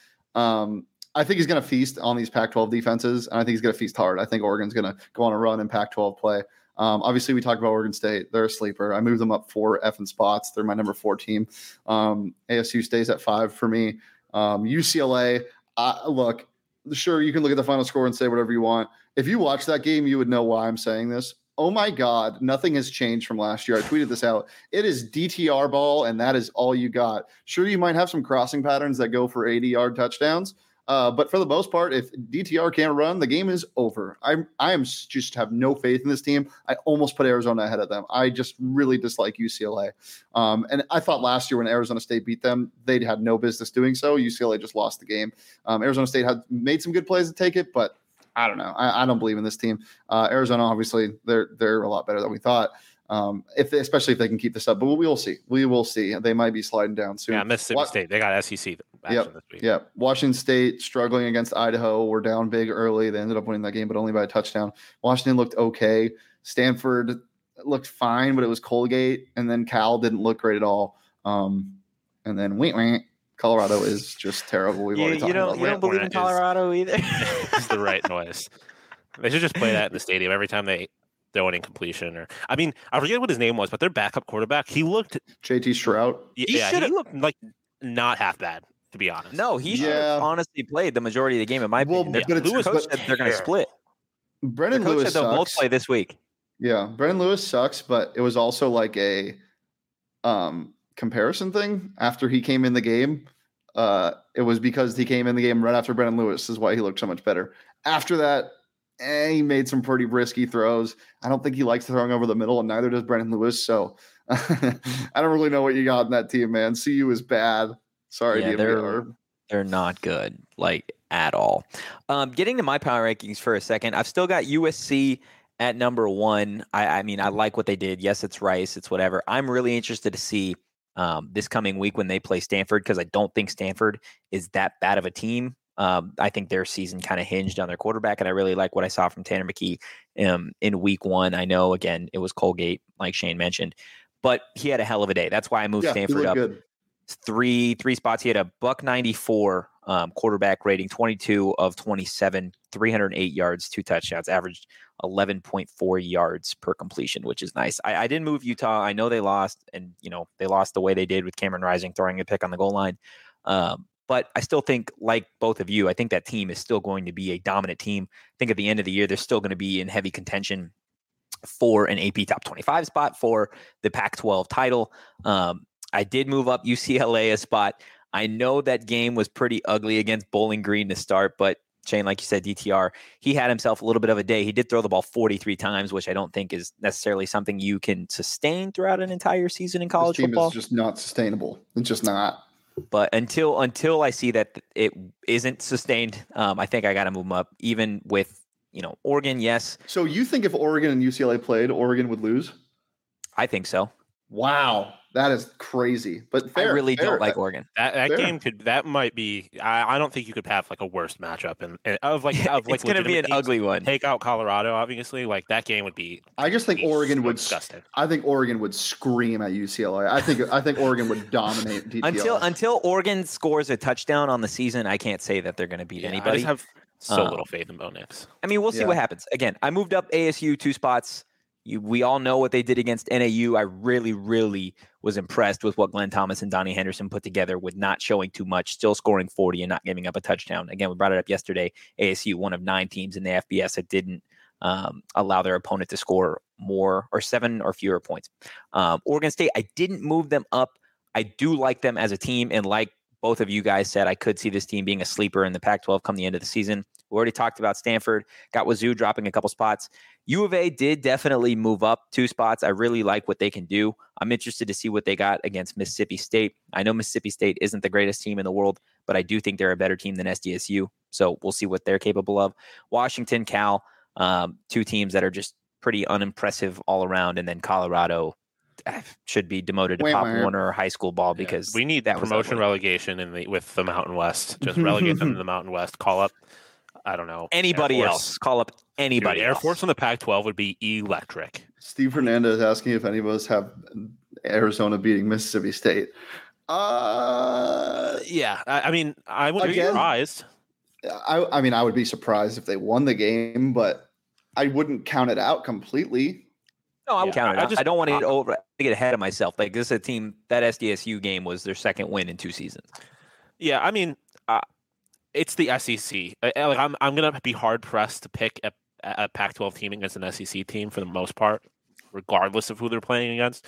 I think he's going to feast on these Pac-12 defenses, and I think he's going to feast hard. I think Oregon's going to go on a run in Pac-12 play. Obviously, we talked about Oregon State. They're a sleeper. I moved them up 4 effing spots. They're my number 4 team. ASU stays at 5 for me. UCLA, look, sure, you can look at the final score and say whatever you want. If you watch that game, you would know why I'm saying this. Oh my God, nothing has changed from last year. I tweeted this out. It is DTR ball, and that is all you got. Sure, you might have some crossing patterns that go for 80-yard touchdowns, but for the most part, if DTR can't run, the game is over. I am just have no faith in this team. I almost put Arizona ahead of them. I just really dislike UCLA. And I thought last year when Arizona State beat them, they had no business doing so. UCLA just lost the game. Arizona State had made some good plays to take it, but I don't know. I don't believe in this team. Arizona, obviously, they're a lot better than we thought. Especially if they can keep this up, but we will see. We will see. They might be sliding down soon. Yeah, Mississippi State. They got SEC action this week. Yeah, Washington State struggling against Idaho. We're down big early. They ended up winning that game, but only by a touchdown. Washington looked okay. Stanford looked fine, but it was Colgate, and then Cal didn't look great at all. And then Colorado is just terrible. We've already talked about that. You don't believe in Colorado either. It's the right noise. They should just play that in the stadium every time they throw an incompletion. I forget what his name was, but their backup quarterback, he looked JT Stroud. Yeah, he looked like not half bad, to be honest. No, he should have honestly played the majority of the game. In my opinion, Lewis coach said they're going to split. Brendan Lewis said they'll both play this week. Yeah, Brendan Lewis sucks, but it was also like a comparison thing after he came in the game. It was because he came in the game right after Brendan Lewis is why he looked so much better. After that, he made some pretty risky throws. I don't think he likes throwing over the middle, and neither does Brendan Lewis. So I don't really know what you got in that team, man. CU is bad. Sorry, yeah, DMVR. They're not good, like at all. Getting to my power rankings for a second, I've still got USC at number 1. I mean, I like what they did. Yes, it's Rice. It's whatever. I'm really interested to see this coming week when they play Stanford, because I don't think Stanford is that bad of a team. I think their season kind of hinged on their quarterback, and I really like what I saw from Tanner McKee in week 1. I know, again, it was Colgate, like Shane mentioned, but he had a hell of a day. That's why I moved Stanford up. Good. Three spots. He had a $194 quarterback rating, 22 of 27, 308 yards, 2 touchdowns, averaged 11.4 yards per completion, which is nice. I didn't move Utah. I know they lost, and they lost the way they did with Cameron Rising throwing a pick on the goal line. But I still think, like both of you, I think that team is still going to be a dominant team. I think at the end of the year, they're still going to be in heavy contention for an AP top 25 spot for the Pac-12 title. I did move up UCLA a spot. I know that game was pretty ugly against Bowling Green to start, but Shane, like you said, DTR, he had himself a little bit of a day. He did throw the ball 43 times, which I don't think is necessarily something you can sustain throughout an entire season in college football. This team is just not sustainable. It's just not. But until I see that it isn't sustained, I think I got to move them up, even with, Oregon, yes. So you think if Oregon and UCLA played, Oregon would lose? I think so. Wow. That is crazy, but fair, I really don't like Oregon. That game might be. I don't think you could have like a worse matchup, and it's going to be an ugly one. Take out Colorado, obviously. Like that game would be. I just think Oregon would. Disgusting. I think Oregon would scream at UCLA. I think Oregon would dominate DTR. Until Oregon scores a touchdown on the season, I can't say that they're going to beat anybody. I just have so little faith in Bo Nix. I mean, we'll see what happens. Again, I moved up ASU 2 spots. We all know what they did against NAU. I really, really was impressed with what Glenn Thomas and Donnie Henderson put together with not showing too much, still scoring 40 and not giving up a touchdown. Again, we brought it up yesterday. ASU, one of 9 teams in the FBS that didn't allow their opponent to score more or 7 or fewer points. Oregon State, I didn't move them up. I do like them as a team, and like both of you guys said, I could see this team being a sleeper in the Pac-12 come the end of the season. We already talked about Stanford, got Wazoo dropping a couple spots. U of A did definitely move up 2 spots. I really like what they can do. I'm interested to see what they got against Mississippi State. I know Mississippi State isn't the greatest team in the world, but I do think they're a better team than SDSU. So we'll see what they're capable of. Washington, Cal, 2 teams that are just pretty unimpressive all around. And then Colorado should be demoted to Pop Warner or high school ball because we need that promotion relegation with the Mountain West. Just relegate them to the Mountain West. Call up, I don't know, anybody else. Call up anybody. Air Force on the Pac-12 would be electric. Steve Hernandez asking if any of us have Arizona beating Mississippi State. Yeah, I mean, I wouldn't be surprised. I mean, I would be surprised if they won the game, but I wouldn't count it out completely. No, I would count it out. I don't want to get ahead of myself. Like, this is a team, that SDSU game was their second win in 2 seasons. Yeah, I mean, it's the SEC. I'm going to be hard-pressed to pick a Pac-12 team against an SEC team for the most part, regardless of who they're playing against.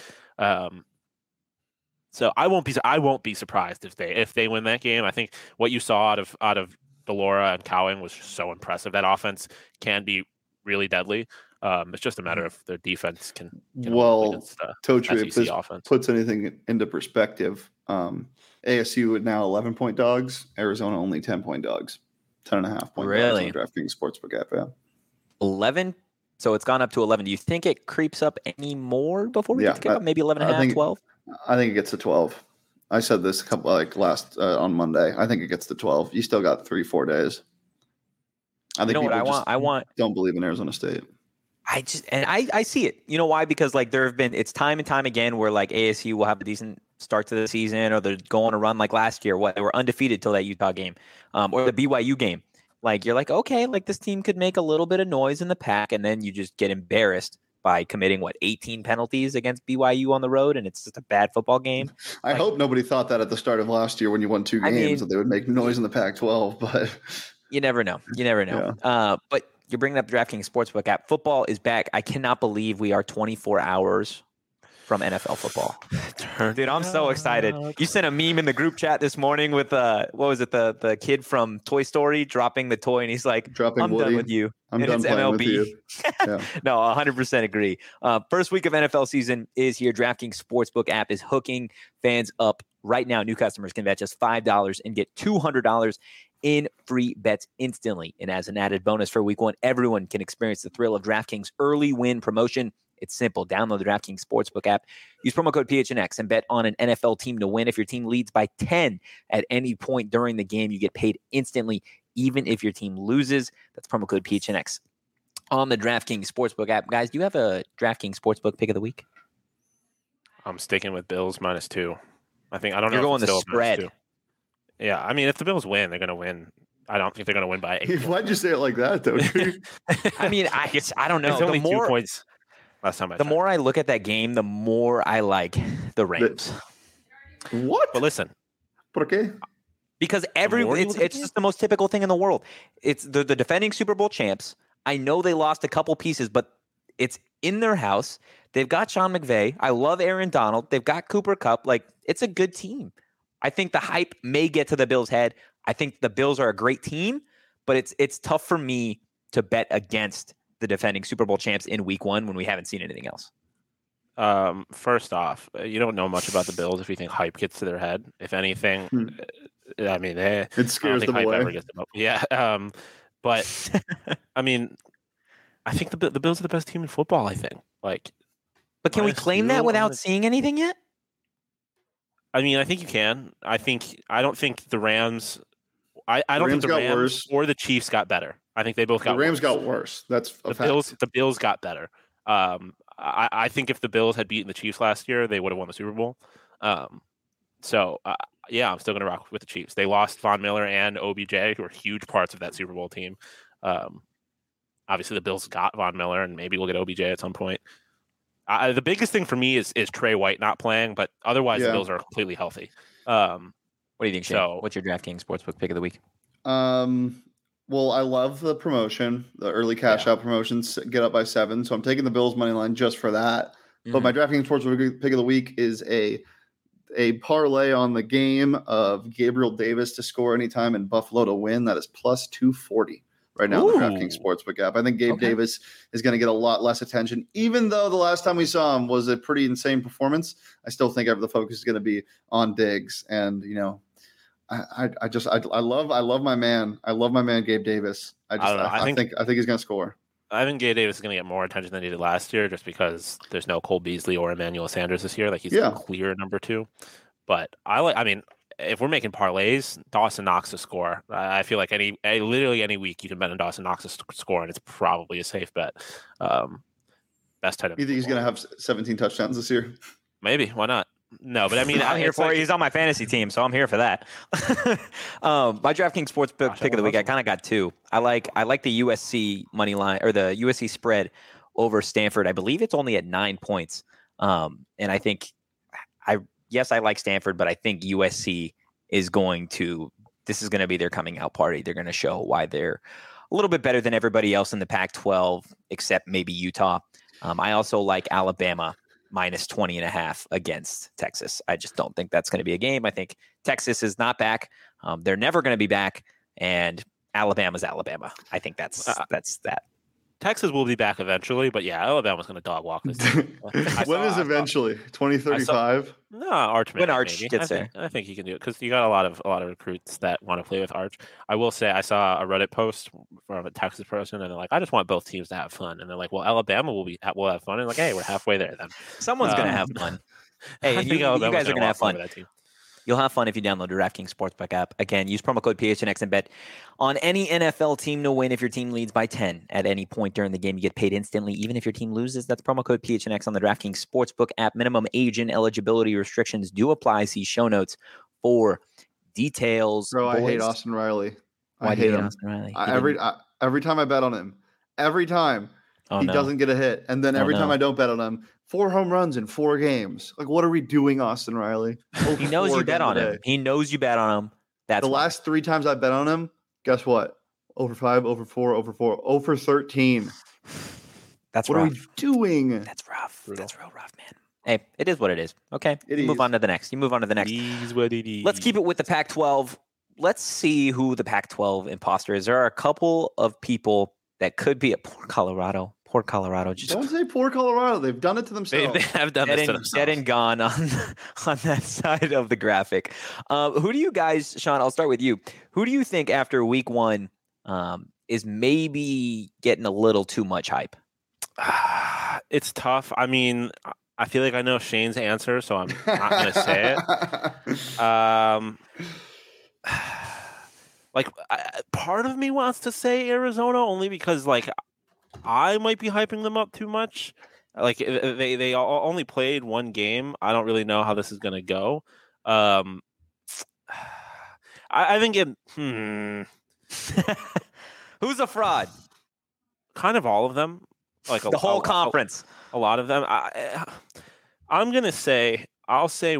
So I won't be surprised if they win that game. I think what you saw out of Delora and Cowan was just so impressive. That offense can be really deadly. It's just a matter of their defense can Totri, if this offense puts anything into perspective, ASU is now 11-point dogs, Arizona only 10-point dogs, 10.5 point really? dogs on DraftKings Sportsbook app. Yeah. 11. So it's gone up to 11. Do you think it creeps up any more before we get to kick up? Maybe 11.5, 12? I think it gets to 12. I said this a couple last on Monday. I think it gets to 12. You still got 3-4 days. I think I want don't believe in Arizona State. I see it. You know why? Because it's time and time again where like ASU will have a decent start to the season, or they're going on a run like last year. They were undefeated till that Utah game, or the BYU game. Like, you're like, okay, like this team could make a little bit of noise in the pack, and then you just get embarrassed by committing 18 penalties against BYU on the road, and it's just a bad football game. I hope nobody thought that at the start of last year when you won 2 games that they would make noise in the Pac-12, but you never know. Yeah. But you're bringing up the DraftKings Sportsbook app. Football is back. I cannot believe we are 24 hours from NFL football. Dude, I'm so excited. You sent a meme in the group chat this morning with what was it, the kid from Toy Story dropping the toy, and he's like, I'm Woody. done with you. I'm and done playing MLB. with you. Yeah. No, 100% agree. First week of NFL season is here. DraftKings Sportsbook app is hooking fans up right now. New customers can bet just $5 and get $200 in free bets instantly. And as an added bonus for week one, everyone can experience the thrill of DraftKings early win promotion. It's simple. Download the DraftKings Sportsbook app. Use promo code PHNX and bet on an NFL team to win. If your team leads by 10 at any point during the game, you get paid instantly, even if your team loses. That's promo code PHNX on the DraftKings Sportsbook app. Guys, do you have a DraftKings Sportsbook pick of the week? I'm sticking with Bills -2. I don't know. You're going the spread. Yeah, I mean, if the Bills win, they're going to win. I don't think they're going to win by 8. Why'd you say it like that, though? I mean, I don't know. It's only 2 points. Last time the more I look at that game, the more I like the Rams. What? But listen. ¿Por qué? Because it's just the most typical thing in the world. It's the defending Super Bowl champs. I know they lost a couple pieces, but it's in their house. They've got Sean McVay. I love Aaron Donald. They've got Cooper Kupp. Like, it's a good team. I think the hype may get to the Bills' head. I think the Bills are a great team, but it's tough for me to bet against the defending Super Bowl champs in week one when we haven't seen anything else. First off, you don't know much about the Bills if you think hype gets to their head. If anything, I mean, it scares them away. Ever gets them up. Yeah. But I mean, I think the Bills are the best team in football. I think. But can we claim that without seeing anything yet? I mean, I think you can. I don't think the Rams. I don't think the Rams worse. Or the Chiefs got better. I think they both got. The Rams worse. got worse. That's a fact. The Bills got better. I think if the Bills had beaten the Chiefs last year, they would have won the Super Bowl. So I'm still going to rock with the Chiefs. They lost Von Miller and OBJ, who are huge parts of that Super Bowl team. Obviously, the Bills got Von Miller, and maybe we'll get OBJ at some point. The biggest thing for me is Trey White not playing, but otherwise the Bills are completely healthy. What do you think, Shane? What's your DraftKings Sportsbook pick of the week? Well, I love the promotion, the early cash out promotions get up by 7. So I'm taking the Bills money line just for that. Mm-hmm. But my DraftKings Sportsbook pick of the week is a parlay on the game of Gabriel Davis to score anytime and Buffalo to win. That is plus 240 right now in the DraftKings Sportsbook app. I think Gabe Davis is going to get a lot less attention, even though the last time we saw him was a pretty insane performance. I still think the focus is going to be on Diggs, and I love my man. I love my man Gabe Davis. I think he's going to score. I think Gabe Davis is going to get more attention than he did last year, just because there's no Cole Beasley or Emmanuel Sanders this year. Like, he's the clear number 2. But if we're making parlays, Dawson Knox to score. I feel like literally any week you can bet on Dawson Knox to score, and it's probably a safe bet. Best tight end. You think he's going to have 17 touchdowns this year? Maybe. Why not? No, but I mean, I'm here for it. He's on my fantasy team, so I'm here for that. My DraftKings Sportsbook pick of the week, I kind of got 2. I like the USC money line, or the USC spread over Stanford. I believe it's only at 9 points. And I think I like Stanford, but I think USC is this is going to be their coming out party. They're going to show why they're a little bit better than everybody else in the Pac-12, except maybe Utah. I also like Alabama minus 20.5 against Texas. I just don't think that's going to be a game. I think Texas is not back. They're never going to be back, and Alabama's Alabama. I think that's that. Texas will be back eventually, but Alabama's going to dog walk this team. When is eventually? 2035? No, Arch. When Arch gets there, I think he can do it, because you got a lot of recruits that want to play with Arch. I will say, I saw a Reddit post from a Texas person, and they're like, "I just want both teams to have fun," and they're like, "Well, Alabama will have fun," and like, "Hey, we're halfway there then." Someone's going to have fun. Hey, you guys are going to have fun. That team. You'll have fun if you download the DraftKings Sportsbook app. Again, use promo code PHNX and bet on any NFL team to win. If your team leads by 10 at any point during the game, you get paid instantly, even if your team loses. That's promo code PHNX on the DraftKings Sportsbook app. Minimum age and eligibility restrictions do apply. See show notes for details. Bro, I hate Austin Riley. Why do you hate Austin Riley? Every time I bet on him, he doesn't get a hit. And then every time I don't bet on him, 4 home runs in 4 games. Like, what are we doing, Austin Riley? He knows you bet on him. He knows you bet on him. That's last 3 times I bet on him. Guess what? Over 5, over 4, over 4, over 13. That's what rough. Are we doing? That's rough. Brutal. That's real rough, man. Hey, it is what it is. Okay, move on to the next. You move on to the next. It is what it is. Let's keep it with the Pac-12. Let's see who the Pac-12 imposter is. There are a couple of people that could be at Poor Colorado. Poor Colorado. Don't say poor Colorado. They've done it to themselves. They have done this to themselves. Dead and gone on that side of the graphic. Who do you guys, Sean, I'll start with you. Who do you think after week one is maybe getting a little too much hype? It's tough. I mean, I feel like I know Shane's answer, so I'm not going to say it. Part of me wants to say Arizona only because, I might be hyping them up too much. Like, they only played one game. I don't really know how this is going to go. I think Who's a fraud? Kind of all of them. Like the whole conference. A lot of them. I'm going to say, I'll say,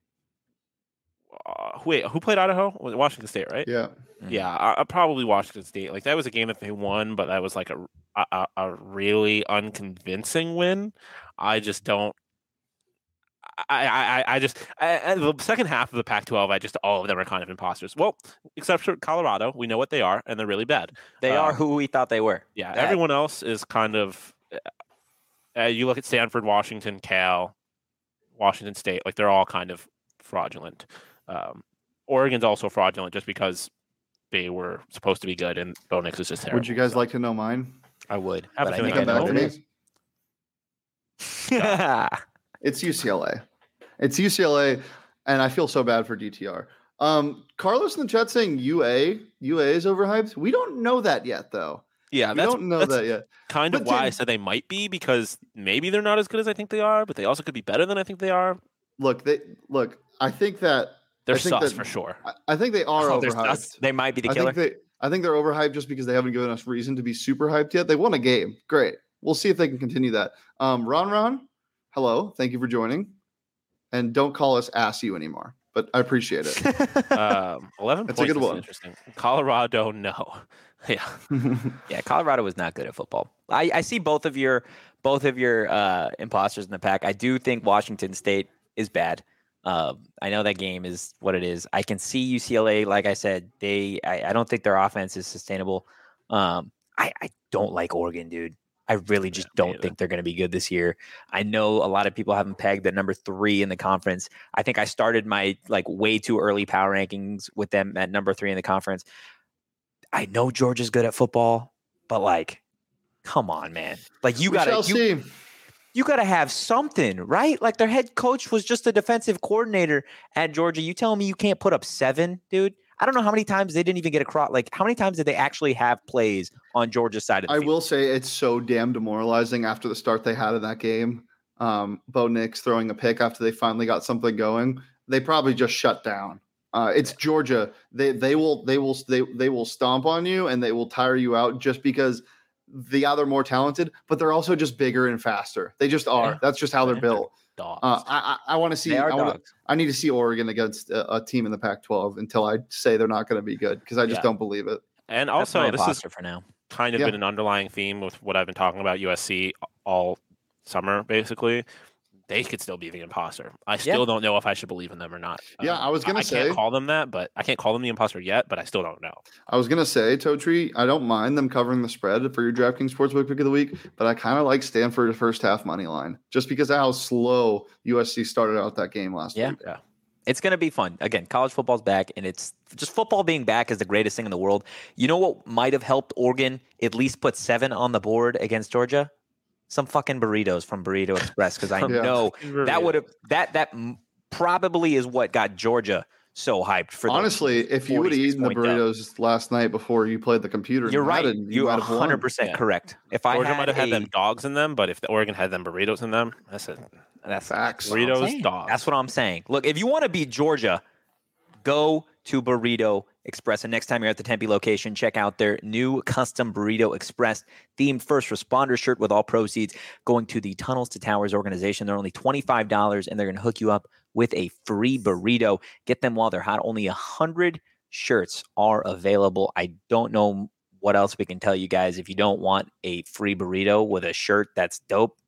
wait, who played Idaho? Washington State, right? Yeah. Yeah, probably Washington State. Like, that was a game that they won, but that was like a really unconvincing win. I just don't. The second half of the Pac-12, all of them are kind of imposters. Well, except for Colorado, we know what they are, and they're really bad. They are who we thought they were. Yeah, everyone else is kind of. You look at Stanford, Washington, Cal, Washington State, like they're all kind of fraudulent. Oregon's also fraudulent just because they were supposed to be good, and Bo Nix is just terrible. Would you guys like to know mine? I would. But I think come back to me. It's UCLA. It's UCLA, and I feel so bad for DTR. Carlos in the chat saying UA is overhyped. We don't know that yet, though. Yeah, we don't know that yet. Kind of why I said they might be, because maybe they're not as good as I think they are, but they also could be better than I think they are. Look. I think that they're sus for sure. I think they are overhyped. They might be the killer. I think they're overhyped just because they haven't given us reason to be super hyped yet. They won a game. Great. We'll see if they can continue that. Ron, hello. Thank you for joining. And don't call us Ass You anymore, but I appreciate it. 11 That's points a good one. Interesting. Colorado, no. Yeah. Yeah, Colorado was not good at football. I see both of your imposters in the pack. I do think Washington State is bad. I know that game is what it is. I can see UCLA, like I said, I don't think their offense is sustainable. I don't like Oregon, dude. I really just don't think they're going to be good this year. I know a lot of people have them pegged at number 3 in the conference. I think I started my way too early power rankings with them at number 3 in the conference. I know Georgia's good at football, but come on, man. You got to have something, right? Like, their head coach was just a defensive coordinator at Georgia. You telling me you can't put up 7, dude? I don't know how many times they didn't even get across. How many times did they actually have plays on Georgia's side of the field? I will say it's so damn demoralizing after the start they had in that game. Bo Nix throwing a pick after they finally got something going. They probably just shut down. It's Georgia. They will stomp on you and they will tire you out just because they're more talented, but they're also just bigger and faster. They just are. Yeah. That's just how they're built. I want to see. I need to see Oregon against a team in the Pac-12 until I say they're not going to be good, because I just don't believe it. And also, this is for now kind of been an underlying theme with what I've been talking about USC all summer, basically. They could still be the imposter. I still don't know if I should believe in them or not. Yeah, I was going to say. I can't call them that, but I can't call them the imposter yet, but I still don't know. I was going to say, Totri, I don't mind them covering the spread for your DraftKings Sportsbook pick of the week, but I kind of like Stanford first half money line just because of how slow USC started out that game last week. Yeah. It's going to be fun. Again, college football's back, and it's just football being back is the greatest thing in the world. You know what might have helped Oregon at least put 7 on the board against Georgia? Some fucking burritos from Burrito Express, because I know that would have that probably is what got Georgia so hyped for. Honestly, if you would have eaten the burritos last night before you played the computer, you're right. You are 100% correct. If Georgia might have had them dogs in them, but if the Oregon had them burritos in them, that's facts. Burritos, dogs. That's what I'm saying. Look, if you want to beat Georgia, go to Burrito Express. And next time you're at the Tempe location, check out their new custom Burrito Express themed first responder shirt with all proceeds going to the Tunnels to Towers organization. They're only $25 and they're going to hook you up with a free burrito. Get them while they're hot. Only 100 shirts are available. I don't know what else we can tell you guys. If you don't want a free burrito with a shirt that's dope,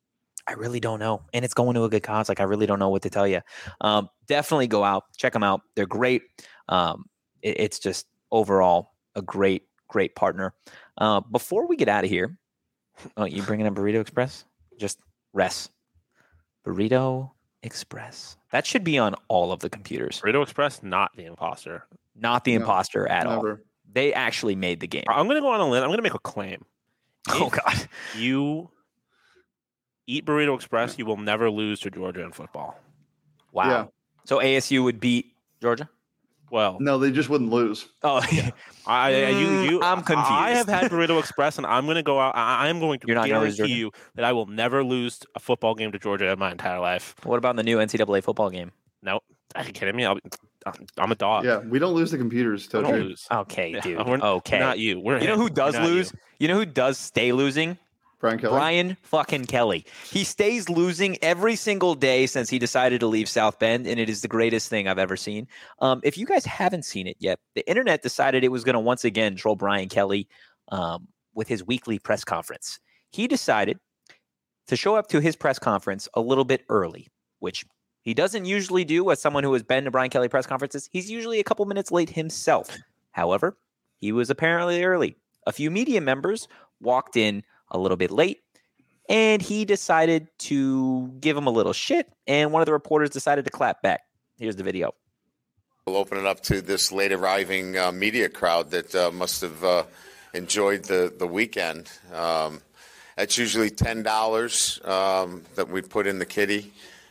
I really don't know. And it's going to a good cause. Like, I really don't know what to tell you. Definitely go out, check them out. They're great. It's just overall a great partner. Before we get out of here, you bringing up Burrito Express? Just rest. Burrito Express. That should be on all of the computers. Burrito Express, not the imposter. Not the imposter at all. They actually made the game. I'm going to go on a limb. I'm going to make a claim. Oh, God. You eat Burrito Express, you will never lose to Georgia in football. Wow. Yeah. So ASU would beat Georgia? Well, no, they just wouldn't lose. Oh, yeah. I'm confused. I have had Burrito Express, and I'm going to go out. I am going to guarantee you that I will never lose a football game to Georgia in my entire life. What about the new NCAA football game? No, are you kidding me? I'm a dog. Yeah, we don't lose the computers. We don't lose. Okay, dude. Okay, not you. You know who does lose? You know who does stay losing? Brian Kelly. Brian fucking Kelly. He stays losing every single day since he decided to leave South Bend, and it is the greatest thing I've ever seen. If you guys haven't seen it yet, the internet decided it was going to once again troll Brian Kelly with his weekly press conference. He decided to show up to his press conference a little bit early, which he doesn't usually do as someone who has been to Brian Kelly press conferences. He's usually a couple minutes late himself. However, he was apparently early. A few media members walked in a little bit late, and he decided to give him a little shit, and one of the reporters decided to clap back. Here's the video. We'll open it up to this late arriving media crowd that must have enjoyed the weekend. That's usually $10 that we put in the kitty.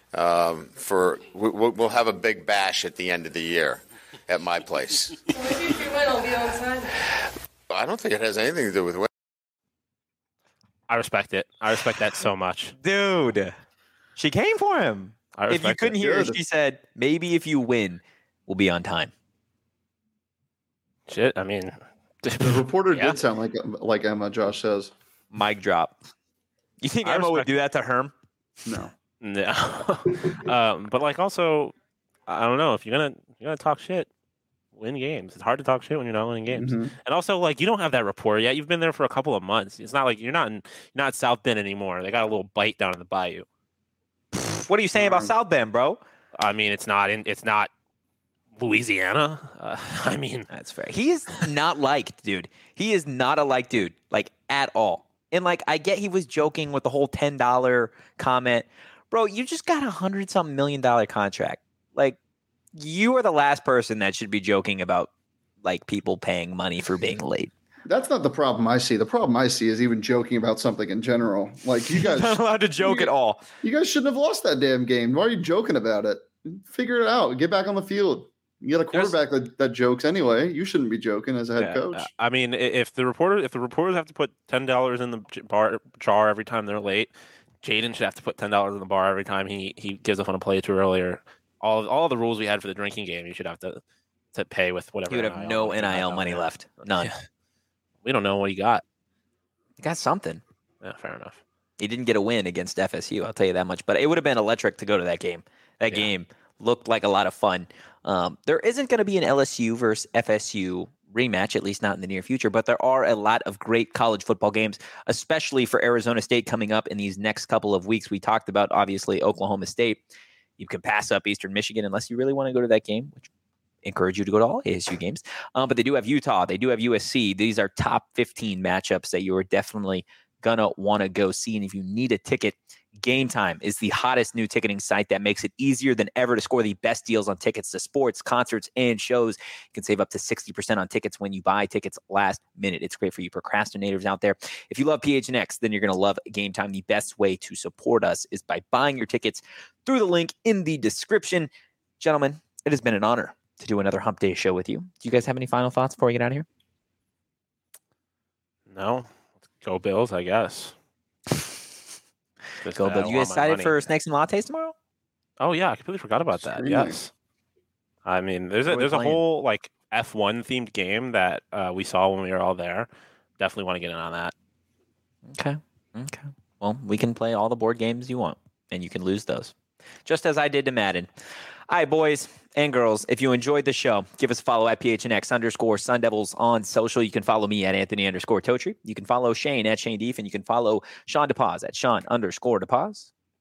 We'll have a big bash at the end of the year at my place. So maybe if you win, I'll be outside. I don't think it has anything to do with winning. I respect it. I respect that so much. Dude, she came for him. If you couldn't hear her, she said, maybe if you win, we'll be on time. Shit, I mean. The reporter did sound like Emma, Josh says. Mic drop. You think Emma would do that to Herm? No. But like also, I don't know, if you're gonna talk shit, win games. It's hard to talk shit when you're not winning games. Mm-hmm. And also, like, you don't have that rapport yet. You've been there for a couple of months. It's not like you're not South Bend anymore. They got a little bite down in the bayou. What are you saying about South Bend, bro? I mean, it's not Louisiana. I mean, that's fair. He is not liked, dude. He is not a liked dude, like, at all. And like, I get he was joking with the whole $10 comment. Bro, you just got $100-something million contract. Like, you are the last person that should be joking about like people paying money for being late. That's not the problem I see. The problem I see is even joking about something in general. Like, you guys not allowed to joke at all. You guys shouldn't have lost that damn game. Why are you joking about it? Figure it out. Get back on the field. You got a quarterback that jokes anyway. You shouldn't be joking as a head coach. I mean, if the reporters have to put $10 in the jar every time they're late, Jaden should have to put $10 in the bar every time he gives up on a play too earlier. All the rules we had for the drinking game, you should have to pay with whatever. You would have no NIL money left. None. Yeah. We don't know what he got. He got something. Yeah, fair enough. He didn't get a win against FSU, I'll tell you that much. But it would have been electric to go to that game. That game looked like a lot of fun. There isn't going to be an LSU versus FSU rematch, at least not in the near future, but there are a lot of great college football games, especially for Arizona State coming up in these next couple of weeks. We talked about, obviously, Oklahoma State. You can pass up Eastern Michigan unless you really want to go to that game, which I encourage you to go to all ASU games. But they do have Utah. They do have USC. These are top 15 matchups that you are definitely going to want to go see. And if you need a ticket, Game Time is the hottest new ticketing site that makes it easier than ever to score the best deals on tickets to sports, concerts, and shows. You can save up to 60% on tickets when you buy tickets last minute. It's great for you procrastinators out there. If you love PHNX, then you're going to love Game Time. The best way to support us is by buying your tickets through the link in the description. Gentlemen, it has been an honor to do another Hump Day show with you. Do you guys have any final thoughts before we get out of here? No. Go Bills, I guess. Go Bills. You excited for snakes and lattes tomorrow? Oh yeah, I completely forgot about that. Yes. I mean, there's a whole like F1 themed game that we saw when we were all there. Definitely want to get in on that. Okay. Well, we can play all the board games you want, and you can lose those, just as I did to Madden. All right, boys and girls, if you enjoyed the show, give us a follow at PHNX_Sun Devils on social. You can follow me at Anthony_Totri. You can follow Shane at Shane Deef, and you can follow Sean DePaz at Sean_DePaz.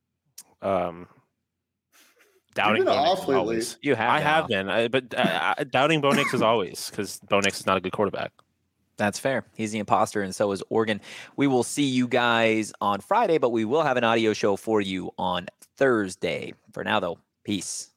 doubting Bo Nix as always. You have. I have been, but doubting Bo Nix as always because Bo Nix is not a good quarterback. That's fair. He's the imposter, and so is Oregon. We will see you guys on Friday, but we will have an audio show for you on Thursday. For now, though, peace.